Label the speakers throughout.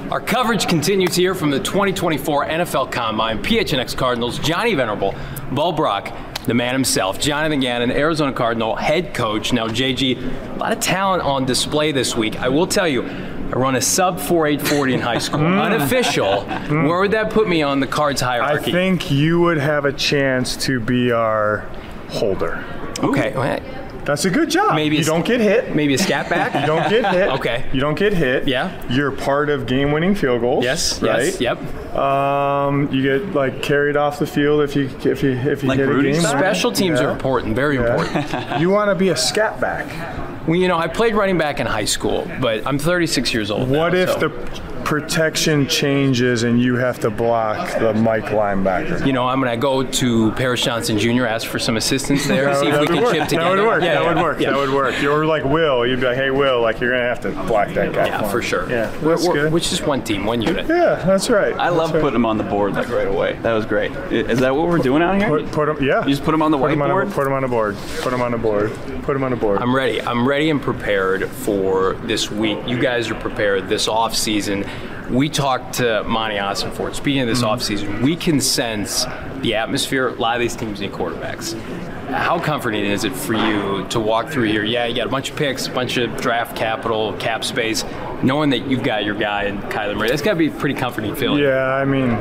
Speaker 1: Our coverage continues here from the 2024 NFL Combine. PHNX Cardinals, Johnny Venerable, Bo Brock, the man himself, Jonathan Gannon, Arizona Cardinal head coach. Now, JG, a lot of talent on display this week. I will tell you, I run a sub 4.840 in high school. Unofficial. Where would that put me on the Cards hierarchy?
Speaker 2: I think you would have a chance to be our holder.
Speaker 1: Okay. Well,
Speaker 2: that's a good job.
Speaker 1: Maybe
Speaker 2: you don't get hit.
Speaker 1: Maybe a scat back?
Speaker 2: You don't get hit.
Speaker 1: Okay.
Speaker 2: You don't get hit.
Speaker 1: Yeah.
Speaker 2: You're part of game-winning field goals.
Speaker 1: Yes.
Speaker 2: Right?
Speaker 1: Yes. Yep.
Speaker 2: You get like carried off the field if you
Speaker 3: like
Speaker 2: hit
Speaker 3: Rudy
Speaker 2: a game.
Speaker 1: Special teams are important. Very important.
Speaker 2: You want to be a scat back.
Speaker 1: Well, you know, I played running back in high school, but I'm 36 years old
Speaker 2: What
Speaker 1: now,
Speaker 2: if
Speaker 1: so.
Speaker 2: the protection changes and you have to block the Mike linebacker?
Speaker 1: You know, I'm going to go to Paris Johnson Jr., ask for some assistance there, see if we can chip together.
Speaker 2: That would work.
Speaker 1: Yeah,
Speaker 2: that
Speaker 1: yeah,
Speaker 2: would work.
Speaker 1: yeah.
Speaker 2: That would work. You're like Will. You'd be like, hey, Will, like you're going to have to block that guy.
Speaker 1: Yeah, for sure.
Speaker 2: Yeah, that's good.
Speaker 1: Which is one team, one unit.
Speaker 2: Yeah, that's right.
Speaker 3: I love putting them on the board like right away. That was great. Is that what we're doing out here?
Speaker 2: Put them, yeah.
Speaker 3: You just put them on the whiteboard?
Speaker 2: Put them on the board. Put them on the board. Put them on the board.
Speaker 1: I'm ready. I'm ready and prepared for this week. You guys are prepared this off season. We talked to Monty Ossenfort. Speaking of this offseason, we can sense the atmosphere. A lot of these teams need quarterbacks. How comforting is it for you to walk through here? Yeah, you got a bunch of picks, a bunch of draft capital, cap space, knowing that you've got your guy in Kyler Murray. That's got to be a pretty comforting feeling.
Speaker 2: Yeah, I mean,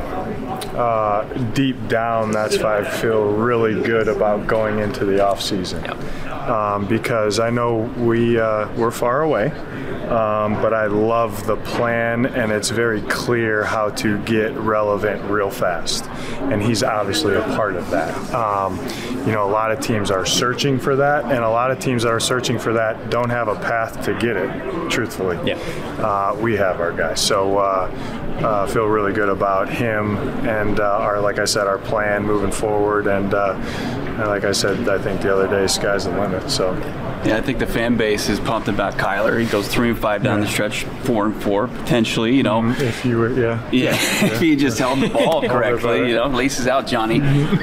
Speaker 2: deep down, that's why I feel really good about going into the offseason.
Speaker 1: Yep.
Speaker 2: Because I know we're far away. But I love the plan, and it's very clear how to get relevant real fast. And he's obviously a part of that. You know, a lot of teams are searching for that, and a lot of teams that are searching for that don't have a path to get it, truthfully.
Speaker 1: Yeah.
Speaker 2: We have our guy. So feel really good about him and like I said, our plan moving forward. And like I said, I think the other day, sky's the limit. So.
Speaker 3: Yeah, I think the fan base is pumped about Kyler. He goes 3-5 down the stretch, 4-4 potentially. You know,
Speaker 2: if you were, yeah.
Speaker 3: If he just held the ball correctly, you know, laces out, Johnny.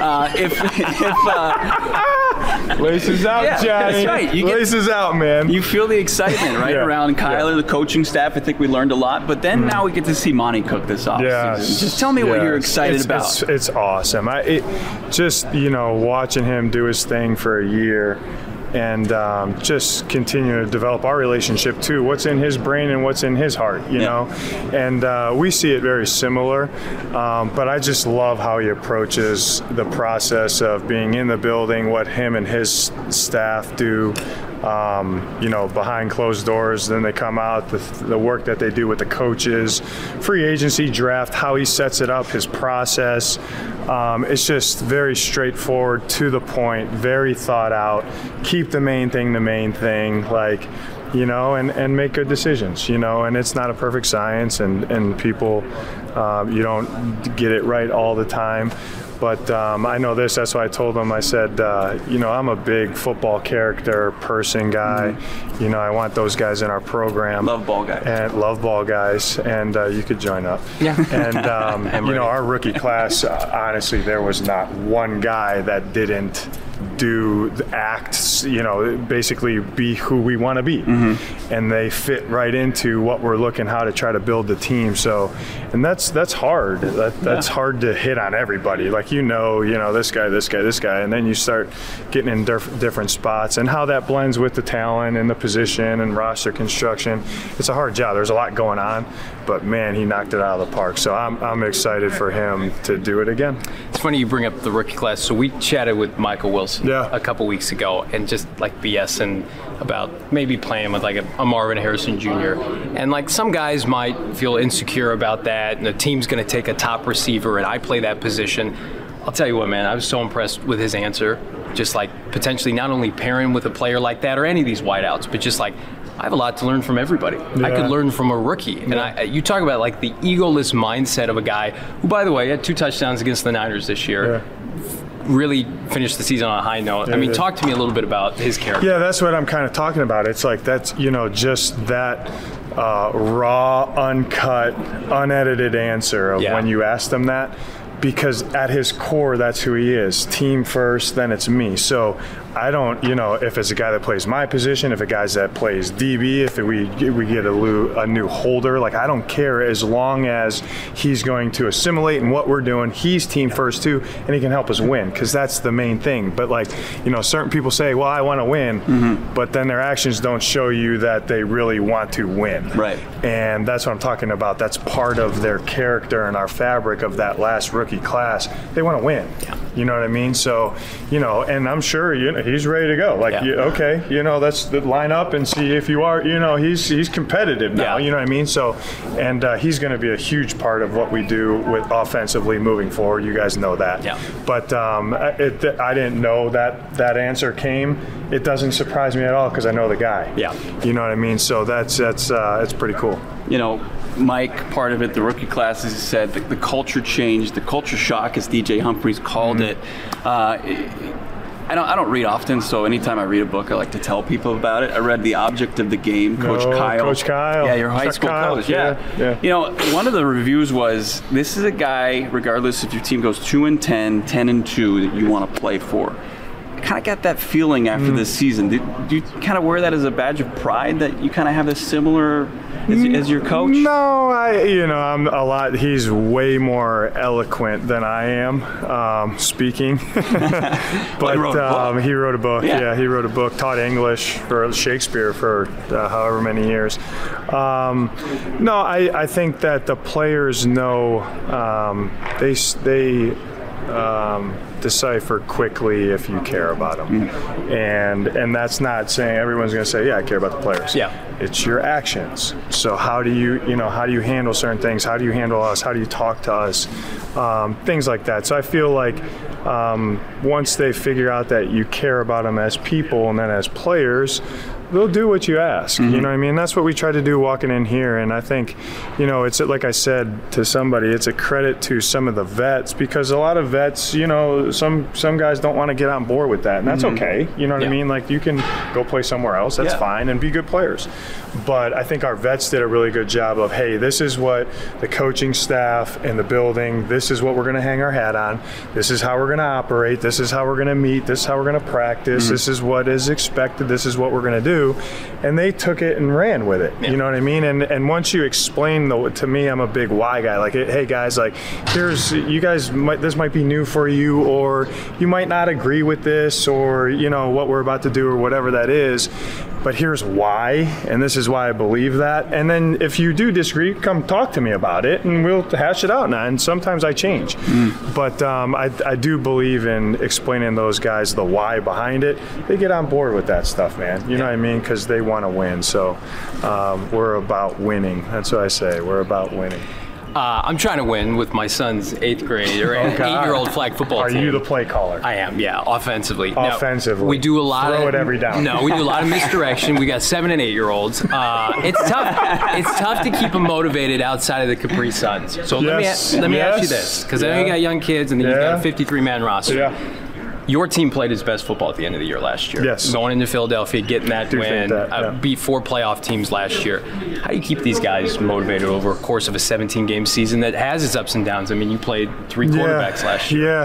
Speaker 2: Laces out,
Speaker 3: Yeah,
Speaker 2: Johnny.
Speaker 3: that's right.
Speaker 2: Laces out, man.
Speaker 3: You feel the excitement right
Speaker 2: Yeah,
Speaker 3: around Kyler, the coaching staff. I think we learned a lot. But then now we get to see Monty cook this offseason.
Speaker 2: Yes,
Speaker 3: Just tell me what you're excited
Speaker 2: it's,
Speaker 3: about.
Speaker 2: It's awesome. Just, you know, watching him do his thing for a year and just continue to develop our relationship too. What's in his brain and what's in his heart, you know? And we see it very similar, but I just love how he approaches the process of being in the building, what him and his staff do, you know, behind closed doors. Then they come out, the work that they do with the coaches, free agency draft, how he sets it up, his process. It's just very straightforward, to the point, very thought out. Keep the main thing, like, you know, and make good decisions, you know. And it's not a perfect science, and people, you don't get it right all the time. But I know this, that's why I told him, I said, you know, I'm a big football character, person guy. Mm-hmm. You know, I want those guys in our program.
Speaker 3: Love ball guys.
Speaker 2: And love ball guys, and you could join up.
Speaker 1: Yeah.
Speaker 2: And, you know, our rookie class, honestly, there was not one guy that didn't do the acts, you know, basically be who we want to be. Mm-hmm. And they fit right into what we're looking, how to try to build the team. So, and that's hard. That's hard to hit on everybody. Like, you know, this guy, and then you start getting in different spots, and how that blends with the talent and the position and roster construction. It's a hard job. There's a lot going on, but man, he knocked it out of the park. So I'm excited for him to do it again.
Speaker 1: It's funny you bring up the rookie class. So we chatted with Michael Wilson
Speaker 2: a
Speaker 1: couple weeks ago, and just like BSing about maybe playing with like a Marvin Harrison Jr. And like some guys might feel insecure about that, and the team's going to take a top receiver, and I play that position. I'll tell you what, man, I was so impressed with his answer. Just like potentially not only pairing with a player like that or any of these wideouts, but just like, I have a lot to learn from everybody. Yeah. I could learn from a rookie. And you talk about like the egoless mindset of a guy who, by the way, had 2 touchdowns against the Niners this year. Yeah. Really finished the season on a high note. I mean, talk to me a little bit about his character.
Speaker 2: Yeah, that's what I'm kind of talking about. It's like, that's, you know, just that raw, uncut, unedited answer of when you ask them that. Because at his core, that's who he is. Team first, then it's me. So I don't, if it's a guy that plays my position, if a guy that plays DB, if we get a new holder, like I don't care as long as he's going to assimilate in what we're doing. He's team first too, and he can help us win, because that's the main thing. But like, certain people say, well, I want to win, but then their actions don't show you that they really want to win.
Speaker 3: Right.
Speaker 2: And that's what I'm talking about. That's part of their character and our fabric of that last rookie class. They want to win.
Speaker 1: Yeah.
Speaker 2: You know what I mean? So, and I'm sure, he's ready to go. Like, okay, let's line up and see if you are, he's competitive now.
Speaker 1: Yeah.
Speaker 2: You know what I mean? So, and he's going to be a huge part of what we do with offensively moving forward. You guys know that.
Speaker 1: Yeah.
Speaker 2: But I didn't know that answer came. It doesn't surprise me at all, because I know the guy.
Speaker 1: Yeah.
Speaker 2: You know what I mean? So that's pretty cool.
Speaker 3: Mike, part of it, the rookie class, as he said, the culture change, the culture shock, as DJ Humphries called it. I don't read often, so anytime I read a book, I like to tell people about it. I read The Object of the Game, Coach Kyle.
Speaker 2: Coach Kyle.
Speaker 3: Yeah, your high
Speaker 2: Chuck
Speaker 3: school
Speaker 2: Kyle.
Speaker 3: coach. Yeah. One of the reviews was, this is a guy, regardless if your team goes 2-10, 10-2, that you want to play for. I kind of got that feeling after this season. Do you kind of wear that as a badge of pride, that you kind of have this similar as your coach?
Speaker 2: No, I'm a lot. He's way more eloquent than I am speaking. But he wrote a book. Yeah, he wrote a book. Taught English for Shakespeare for however many years. No, I think that the players know they decipher quickly if you care about them. And that's not saying everyone's going to say, I care about the players.
Speaker 1: Yeah.
Speaker 2: It's your actions. So how do you handle certain things? How do you handle us? How do you talk to us? Things like that. So I feel like once they figure out that you care about them as people and then as players, they'll do what you ask. You know what I mean? That's what we try to do walking in here. And I think, it's like I said to somebody, it's a credit to some of the vets, because a lot of vets, some guys don't want to get on board with that. And that's okay. You know what I mean? Like, you can go play somewhere else. That's fine, and be good players. But I think our vets did a really good job of, hey, this is what the coaching staff and the building, this is what we're going to hang our hat on. This is how we're going to operate. This is how we're going to meet. This is how we're going to practice. This is what is expected. This is what we're going to do. And they took it and ran with it. You know what I mean? And once you explain, to me, I'm a big why guy. Like, hey guys, like, this might be new for you, or you might not agree with this, or what we're about to do, or whatever that is. But here's why, and this is why I believe that. And then if you do disagree, come talk to me about it, and we'll hash it out now. And sometimes I change. But I do believe in explaining those guys the why behind it. They get on board with that stuff, man. You know what I mean? Because they want to win. So we're about winning. That's what I say. We're about winning.
Speaker 1: I'm trying to win with my son's 8th grade or 8-year-old flag football team.
Speaker 2: Are you the play caller?
Speaker 1: I am, yeah, offensively.
Speaker 2: Offensively.
Speaker 1: Now, we do a lot
Speaker 2: Throw it every down.
Speaker 1: No, we do a lot of misdirection. We got 7 and 8-year-olds. It's tough. It's tough to keep them motivated outside of the Capri Suns. So let me ask you this, because I know you got young kids and then you've got a 53-man roster.
Speaker 2: Yeah.
Speaker 1: Your team played its best football at the end of the year last year.
Speaker 2: Yes.
Speaker 1: Going into Philadelphia, getting that win, beat 4 playoff teams last year. How do you keep these guys motivated over a course of a 17-game season that has its ups and downs? I mean, you played 3 quarterbacks last year.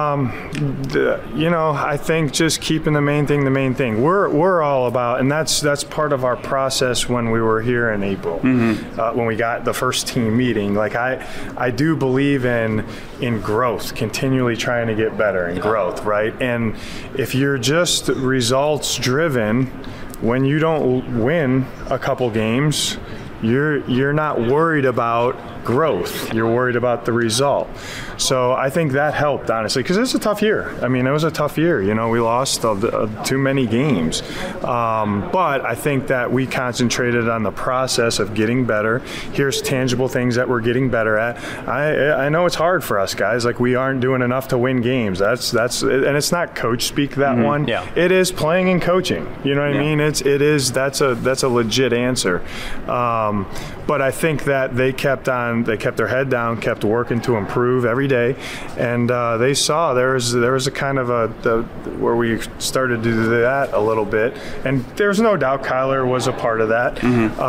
Speaker 2: Yeah. I think just keeping the main thing. We're all about, and that's part of our process when we were here in April, when we got the first team meeting. Like, I do believe in growth, continually trying to get better in growth, right? And if you're just results driven, when you don't win a couple games, you're not worried about growth. You're worried about the result. So I think that helped, honestly, because it's a tough year. I mean, it was a tough year. We lost too many games. But I think that we concentrated on the process of getting better. Here's tangible things that we're getting better at. I know it's hard for us, guys. Like, we aren't doing enough to win games. That's and it's not coach speak, that one.
Speaker 1: Yeah.
Speaker 2: It is playing and coaching. You know what I mean? That's a legit answer. But I think that they kept their head down, kept working to improve every day, and they saw there was a kind of where we started to do that a little bit, and there's no doubt Kyler was a part of that.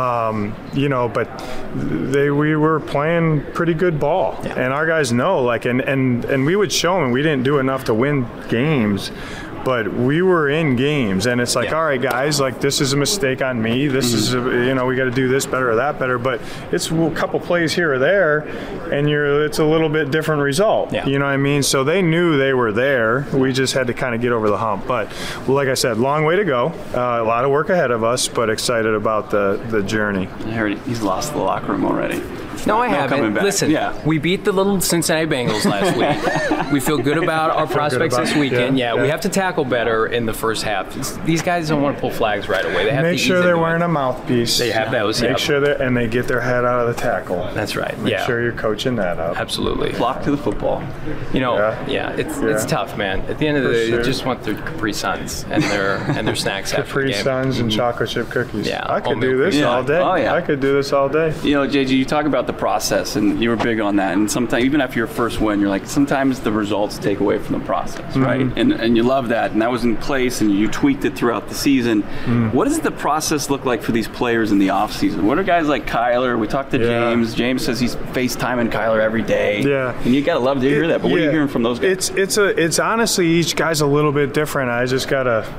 Speaker 2: But we were playing pretty good ball, and our guys know, like, and we would show them we didn't do enough to win games. but we were in games, and it's like,
Speaker 1: Yeah.
Speaker 2: all right, guys, like this is a mistake on me. This is, we got to do this better or that better. But it's a couple plays here or there, and it's a little bit different result.
Speaker 1: Yeah.
Speaker 2: You know what I mean? So they knew they were there. We just had to kind of get over the hump. But like I said, long way to go. A lot of work ahead of us, but excited about the journey.
Speaker 3: I heard he's lost the locker room already.
Speaker 1: No, I
Speaker 3: coming
Speaker 1: haven't.
Speaker 3: back.
Speaker 1: Listen,
Speaker 3: Yeah.
Speaker 1: we beat the little Cincinnati Bengals last week. We feel good about our prospects
Speaker 2: about
Speaker 1: this
Speaker 2: it.
Speaker 1: weekend.
Speaker 2: Yeah,
Speaker 1: We
Speaker 2: yeah.
Speaker 1: have to tackle better in the first half. These guys don't want to pull flags right away. They have
Speaker 2: Make
Speaker 1: to
Speaker 2: sure
Speaker 1: ease
Speaker 2: they're
Speaker 1: into
Speaker 2: wearing
Speaker 1: it.
Speaker 2: a mouthpiece.
Speaker 1: They have those.
Speaker 2: Make
Speaker 1: Yeah,
Speaker 2: sure and they get their head out of the tackle.
Speaker 1: that's right.
Speaker 2: Make
Speaker 1: Yeah,
Speaker 2: sure you're coaching that up.
Speaker 1: absolutely.
Speaker 3: Flock to the football.
Speaker 1: You know,
Speaker 2: Yeah.
Speaker 1: it's tough, man. At the end of the
Speaker 2: For
Speaker 1: day,
Speaker 2: sure.
Speaker 1: they just want their Capri Suns and their snacks after the
Speaker 2: Capri
Speaker 1: game.
Speaker 2: Suns and chocolate chip cookies.
Speaker 1: Yeah,
Speaker 2: I could
Speaker 1: oatmeal
Speaker 2: do this
Speaker 3: cookies.
Speaker 2: all day.
Speaker 3: Oh, yeah.
Speaker 2: I could do this all day.
Speaker 3: You know, JG, you talk about the process, and you were big on that. And sometimes, even after your first win, you're like, sometimes the results take away from the process, right? And you love that, and that was in place, and you tweaked it throughout the season. What does the process look like for these players in the offseason? What are guys like Kyler? We talked to
Speaker 2: Yeah.
Speaker 3: James. James says he's FaceTiming Kyler every day.
Speaker 2: Yeah.
Speaker 3: And you gotta love to hear that. But what are you
Speaker 2: Yeah.
Speaker 3: hearing from those guys?
Speaker 2: It's honestly, each guy's a little bit different. I just got a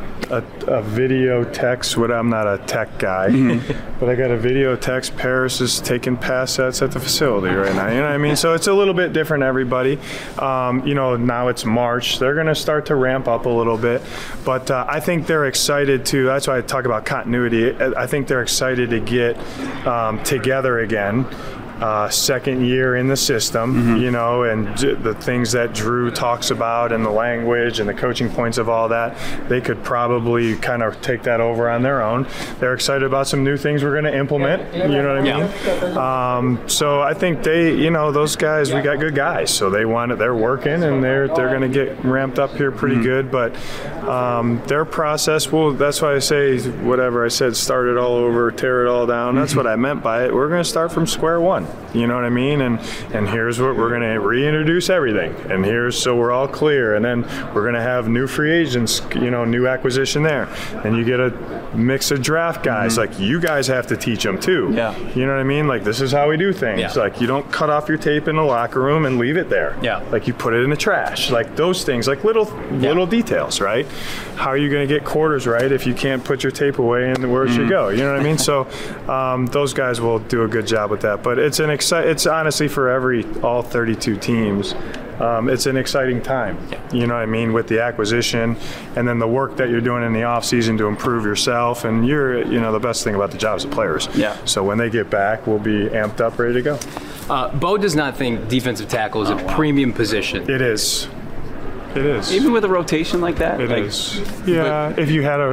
Speaker 2: video text. I'm not a tech guy, but I got a video text. Paris is taking pass sets at the facility right now. You know what I mean? So it's a little bit different, everybody. Now it's March. They're going to start to ramp up a little bit, but I think they're excited to. That's why I talk about continuity. I think they're excited to get together again. Second year in the system, and the things that Drew talks about and the language and the coaching points of all that, they could probably kind of take that over on their own. They're excited about some new things we're going to implement, you know what I mean? So I think those guys, we got good guys, so they're working and they're going to get ramped up here pretty good, but their process, that's why I say whatever I said, start it all over, tear it all down. That's what I meant by it. We're going to start from square one. You know what I mean? And here's what we're going to reintroduce everything. And so we're all clear. And then we're going to have new free agents, new acquisition there. And you get a mix of draft guys. Like, you guys have to teach them too.
Speaker 3: Yeah.
Speaker 2: You know what I mean? Like, this is how we do things.
Speaker 1: Yeah.
Speaker 2: Like, you don't cut off your tape in the locker room and leave it there.
Speaker 1: Yeah.
Speaker 2: Like, you put it in the trash. Like, those things, like little details, right? How are you going to get quarters right if you can't put your tape away and where it should go? You know what I mean? So those guys will do a good job with that. But it's honestly for all 32 teams. It's an exciting time, you know what I mean, with the acquisition and then the work that you're doing in the off season to improve yourself. And the best thing about the job is the players.
Speaker 3: Yeah.
Speaker 2: So when they get back, we'll be amped up, ready to go.
Speaker 1: Bo does not think defensive tackle is a premium position.
Speaker 2: It is. It is.
Speaker 3: Even with a rotation like that?
Speaker 2: It is. Yeah, if you had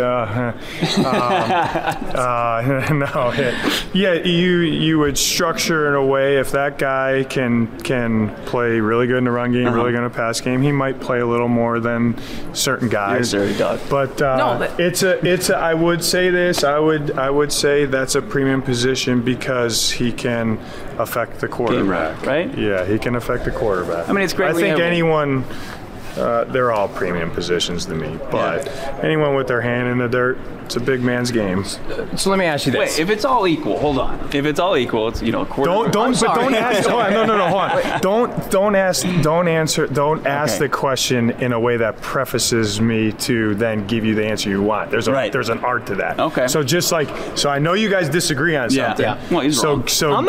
Speaker 2: you would structure in a way, if that guy can play really good in the run game, really good in the pass game, he might play a little more than certain guys.
Speaker 3: You're dirty dog.
Speaker 2: But I would say this. I would say that's a premium position because he can affect the quarterback.
Speaker 3: Right?
Speaker 2: Yeah, he can affect the quarterback.
Speaker 3: I mean, it's great
Speaker 2: I
Speaker 3: we
Speaker 2: think
Speaker 3: have-
Speaker 2: anyone. They're all premium positions to me, but anyone with their hand in the dirt, it's a big man's game.
Speaker 1: So let me ask you this.
Speaker 3: Wait, if it's all equal, hold on. If it's all equal, it's quarterback.
Speaker 2: Don't
Speaker 1: sorry.
Speaker 2: ask. Hold on, no, hold on. Don't ask the question in a way that prefaces me to then give you the answer you want. There's an art to that.
Speaker 3: Okay.
Speaker 2: So I know you guys disagree on something.
Speaker 3: Yeah. Well, he's wrong.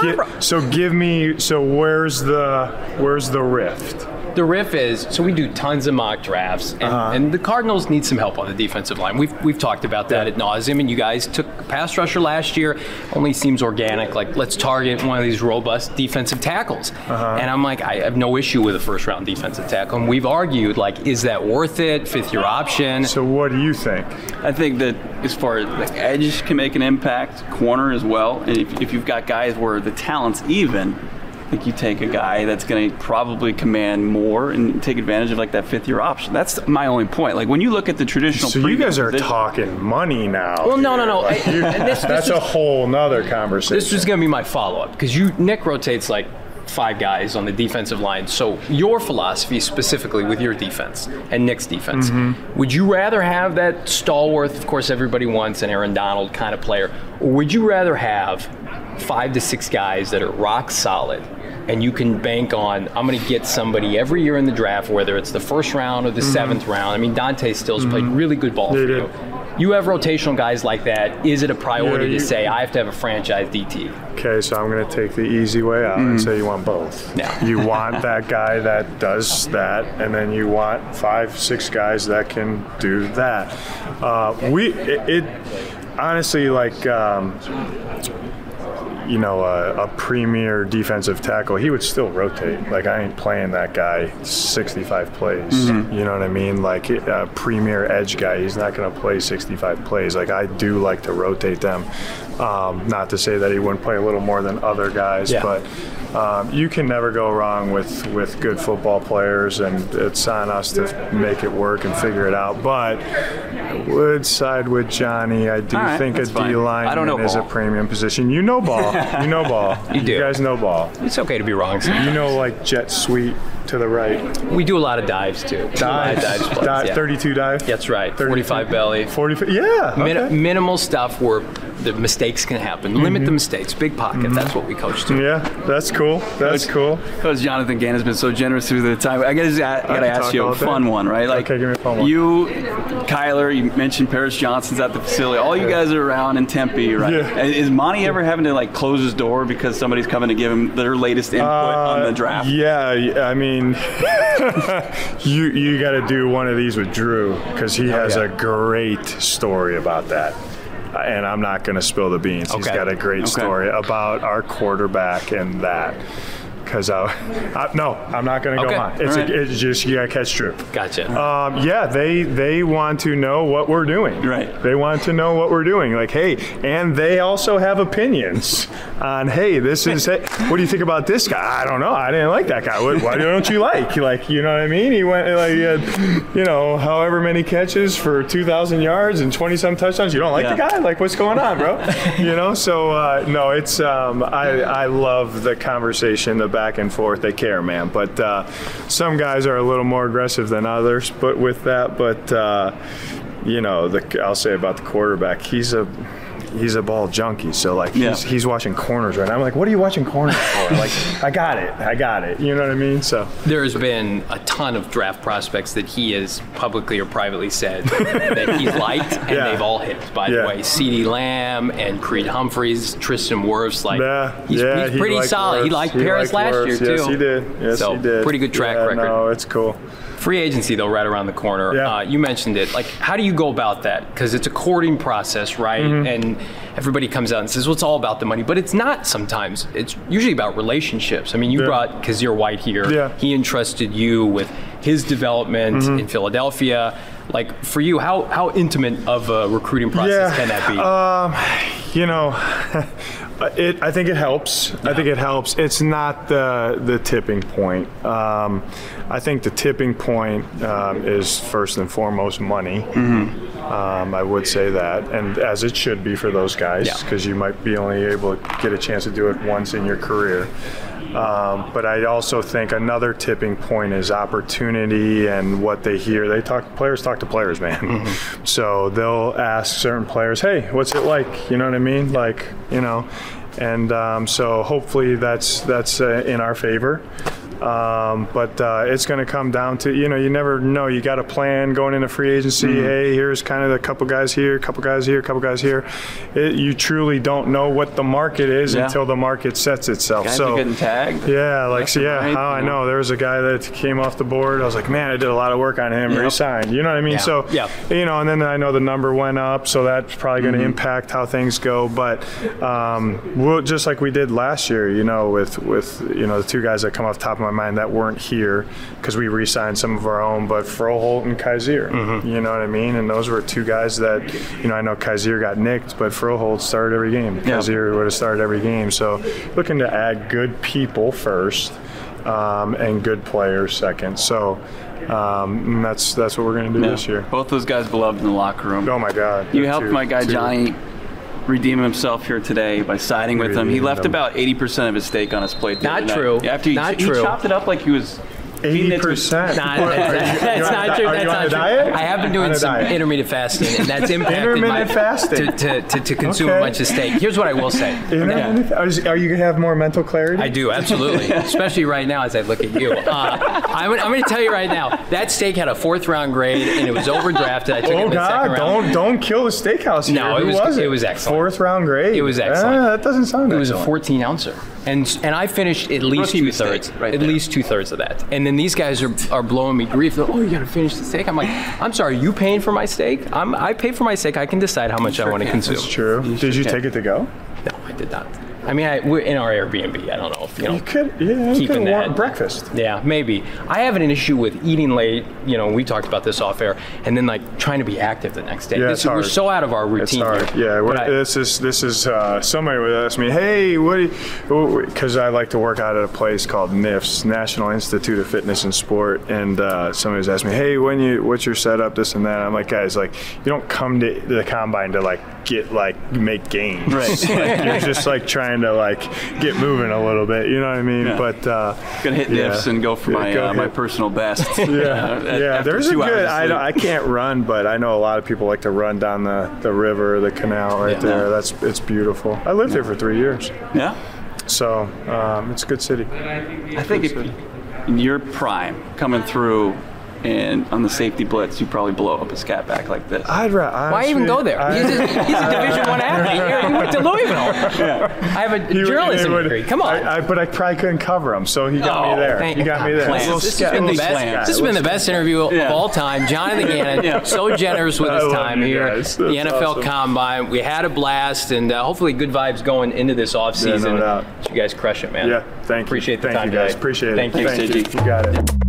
Speaker 2: Where's the rift?
Speaker 1: The riff is, so we do tons of mock drafts, and the Cardinals need some help on the defensive line. We've talked about that ad nauseum, and you guys took a pass rusher last year. Only seems organic. Like, let's target one of these robust defensive tackles. And I'm like, I have no issue with a first-round defensive tackle. And we've argued, like, is that worth it? Fifth-year option.
Speaker 2: So what do you think?
Speaker 3: I think that as far as like edge can make an impact, corner as well, and if you've got guys where the talent's even, I think you take a guy that's going to probably command more and take advantage of like that fifth-year option. That's my only point. Like when you look at the traditional.
Speaker 2: So you guys are
Speaker 3: position,
Speaker 2: talking money now.
Speaker 1: Well, no.
Speaker 2: That's a whole nother conversation.
Speaker 1: This was going to be my follow-up, because Nick rotates like 5 guys on the defensive line. So your philosophy specifically with your defense and Nick's defense, would you rather have that stalwart, of course everybody wants, an Aaron Donald kind of player, or would you rather have 5 to 6 guys that are rock solid, and you can bank on, I'm going to get somebody every year in the draft, whether it's the first round or the 7th round. I mean, Dante Stills played really good ball for you. You have rotational guys like that. Is it a priority to say, I have to have a franchise DT?
Speaker 2: Okay, so I'm going to take the easy way out and say you want both.
Speaker 1: Yeah.
Speaker 2: You want that guy that does that, and then you want 5, 6 guys that can do that. Honestly, like, a premier defensive tackle, he would still rotate. Like, I ain't playing that guy 65 plays. You know what I mean? Like, a premier edge guy, he's not going to play 65 plays. Like, I do like to rotate them. Not to say that he wouldn't play a little more than other guys, but you can never go wrong with good football players, and it's on us to make it work and figure it out. But I would side with Johnny. I do think a D-lineman is a premium position. You know ball. You know ball.
Speaker 1: You do.
Speaker 2: You guys know ball.
Speaker 1: It's okay to be wrong sometimes.
Speaker 2: You know, like jet sweep to the right.
Speaker 1: We do a lot of dives, too.
Speaker 2: Dives, 32 dive?
Speaker 1: That's right. 45 belly.
Speaker 2: 45, yeah. Okay.
Speaker 1: Minimal stuff where the mistakes can happen. Limit the mistakes. Big pocket. That's what we coach to.
Speaker 2: Yeah, that's cool. That's cool.
Speaker 3: Coach Jonathan Gann has been so generous through the time. I gotta ask you a fun one, right? Like,
Speaker 2: okay, give me a fun one.
Speaker 3: You, Kyler, you mentioned Paris Johnson's at the facility. All you guys are around in Tempe, right?
Speaker 2: Yeah.
Speaker 3: Is Monty ever having to like close his door because somebody's coming to give him their latest input on the draft?
Speaker 2: Yeah, I mean, you got to do one of these with Drew, because he has a great story about that. And I'm not going to spill the beans. Okay. He's got a great story about our quarterback and that. Because no, I'm not going to go on. It's just, you got to catch Drew.
Speaker 1: Gotcha.
Speaker 2: Yeah, they want to know what we're doing.
Speaker 3: Right.
Speaker 2: They want to know what we're doing. Like, hey, and they also have opinions on, hey, this is, hey, what do you think about this guy? I don't know. I didn't like that guy. Why don't you like? Like, you know what I mean? He went, like, he had, however many catches for 2,000 yards and 20-some touchdowns. You don't like the guy? Like, what's going on, bro? So, no, it's, I love the conversation, the back and forth. They care, man. But some guys are a little more aggressive than others. But with that, I'll say about the quarterback, he's a ball junkie. So like he's watching corners right now. I'm like, what are you watching corners for? Like, I got it. You know what I mean? So
Speaker 1: there's been a ton of draft prospects that he has publicly or privately said that he's liked, and they've all hit. By the way, CeeDee Lamb and Creed Humphreys, Tristan Wirfs, he's pretty solid. Wirfs. He liked Paris last year too.
Speaker 2: Yes, he did. Yes, he did.
Speaker 1: Pretty good track record.
Speaker 2: No, it's cool.
Speaker 1: Free agency, though, right around the corner.
Speaker 2: Yeah.
Speaker 1: You mentioned it. Like, how do you go about that? Because it's a courting process, right? And everybody comes out and says, well, it's all about the money. But it's not sometimes. It's usually about relationships. I mean, you brought Kazir White here. Yeah. He entrusted you with his development in Philadelphia. Like, for you, how intimate of a recruiting process can that be?
Speaker 2: I think it helps. Yeah. I think it helps. It's not the tipping point. I think the tipping point is first and foremost money. I would say that, and as it should be for those guys, because you might be only able to get a chance to do it once in your career. But I also think another tipping point is opportunity and what they hear. Players talk to players, man. So they'll ask certain players, hey, what's it like? You know what I mean? Like, and so hopefully that's in our favor. But it's going to come down to, you never know. You got a plan going into free agency. Hey, here's kind of a couple guys here, couple guys here, couple guys here. You truly don't know what the market is until the market sets itself.
Speaker 3: Guys are getting tagged.
Speaker 2: Yeah, I know. There was a guy that came off the board. I was like, man, I did a lot of work on him. Re-signed. You know what I mean? So, and then I know the number went up, so that's probably going to impact how things go. But we'll, just like we did last year, with the two guys that come off the top of my mind that weren't here because we re-signed some of our own, but Froholt and Kaiser, you know what I mean? And those were two guys that, I know Kaiser got nicked, but Froholt started every game. Kaiser would have started every game. So looking to add good people first and good players second. So that's what we're going to do this year.
Speaker 3: Both those guys beloved in the locker room.
Speaker 2: Oh, my God.
Speaker 3: You helped my guy Johnny redeem himself here today by siding with him. He left about 80% of his steak on his plate.
Speaker 1: Not true.
Speaker 3: After he chopped it up like he was
Speaker 2: 80%.
Speaker 1: Nah, that's not true.
Speaker 2: Are
Speaker 1: That's
Speaker 2: you on
Speaker 1: not
Speaker 2: a
Speaker 1: true.
Speaker 2: diet?
Speaker 1: I have been doing
Speaker 2: On a
Speaker 1: some
Speaker 2: diet.
Speaker 1: intermittent fasting, and that's impacted
Speaker 2: Intermittent fasting.
Speaker 1: to consume a
Speaker 2: Okay.
Speaker 1: bunch of steak. Here's what I will say.
Speaker 2: Are you gonna have more mental clarity?
Speaker 1: I do, absolutely. Especially right now as I look at you. I'm going to tell you right now, that steak had a 4th round grade, and it was overdrafted. I took it
Speaker 2: Oh
Speaker 1: in the second
Speaker 2: God!
Speaker 1: round.
Speaker 2: Don't kill the steakhouse here.
Speaker 1: No,
Speaker 2: Who
Speaker 1: it was excellent.
Speaker 2: 4th round grade.
Speaker 1: It was excellent.
Speaker 2: That doesn't sound.
Speaker 1: It was a
Speaker 2: excellent.
Speaker 1: 14 ouncer. And I finished at least
Speaker 3: Rookie mistake,
Speaker 1: 2/3.
Speaker 3: right
Speaker 1: At
Speaker 3: there.
Speaker 1: least 2/3 of that. And then these guys are blowing me grief. They're, oh, you got to finish the steak. I'm like, I'm sorry, you paying for my steak? I pay for my steak. I can decide how much I want to consume.
Speaker 2: It's true. Did you take it to go?
Speaker 1: No, I did not. I mean, we're in our Airbnb. I don't know if
Speaker 2: You could. Yeah. You
Speaker 1: keeping
Speaker 2: could
Speaker 1: that.
Speaker 2: want breakfast.
Speaker 1: Yeah, maybe. I have an issue with eating late. We talked about this off air, and then like trying to be active the next day.
Speaker 2: Yeah, it's
Speaker 1: We're
Speaker 2: hard.
Speaker 1: so out of our
Speaker 2: It's
Speaker 1: routine.
Speaker 2: hard.
Speaker 1: here.
Speaker 2: Yeah.
Speaker 1: But
Speaker 2: This is somebody would ask me, hey, because I like to work out at a place called NIFS, National Institute of Fitness and Sport, and somebody was asking me, hey, what's your setup, this and that. I'm like, guys, like you don't come to the combine to make gains.
Speaker 3: Right.
Speaker 2: Like, you're just like trying to like get moving a little bit. You know what I mean?
Speaker 3: Yeah.
Speaker 2: But
Speaker 3: Gonna hit
Speaker 2: yeah.
Speaker 3: diffs and go for
Speaker 2: Yeah,
Speaker 3: my
Speaker 2: hit.
Speaker 3: personal best.
Speaker 2: Yeah, There's a
Speaker 3: 2 hours
Speaker 2: good.
Speaker 3: of sleep.
Speaker 2: I can't run, but I know a lot of people like to run down the river, the canal right
Speaker 1: Yeah.
Speaker 2: there. It's beautiful. I lived there for 3 years,
Speaker 3: Yeah.
Speaker 2: so it's a good city.
Speaker 3: I think in your prime, coming through and on the safety blitz, you probably blow up a scat back like this.
Speaker 1: why even go there? He's a Division I athlete. He went to Louisville. I have a journalism degree. Come on.
Speaker 2: But I probably couldn't cover him, so he got me there.
Speaker 1: Thank
Speaker 2: He got me there.
Speaker 1: Plants.
Speaker 2: Little
Speaker 1: This
Speaker 2: scat-
Speaker 1: has been the
Speaker 2: little
Speaker 1: best.
Speaker 2: scat.
Speaker 1: This has been the best interview of all time. Jonathan Gannon, so generous with his
Speaker 2: I love
Speaker 1: time
Speaker 2: you
Speaker 1: here.
Speaker 2: guys.
Speaker 1: The
Speaker 2: That's
Speaker 1: NFL
Speaker 2: awesome.
Speaker 1: Combine. We had a blast, and hopefully good vibes going into this offseason.
Speaker 2: doubt.
Speaker 1: You guys crush it, man.
Speaker 2: Yeah, thank you.
Speaker 1: Appreciate the
Speaker 2: Thank
Speaker 1: time
Speaker 2: you guys.
Speaker 1: today.
Speaker 2: Appreciate it.
Speaker 1: Thank you.
Speaker 3: Thanks, JG.
Speaker 2: You got it.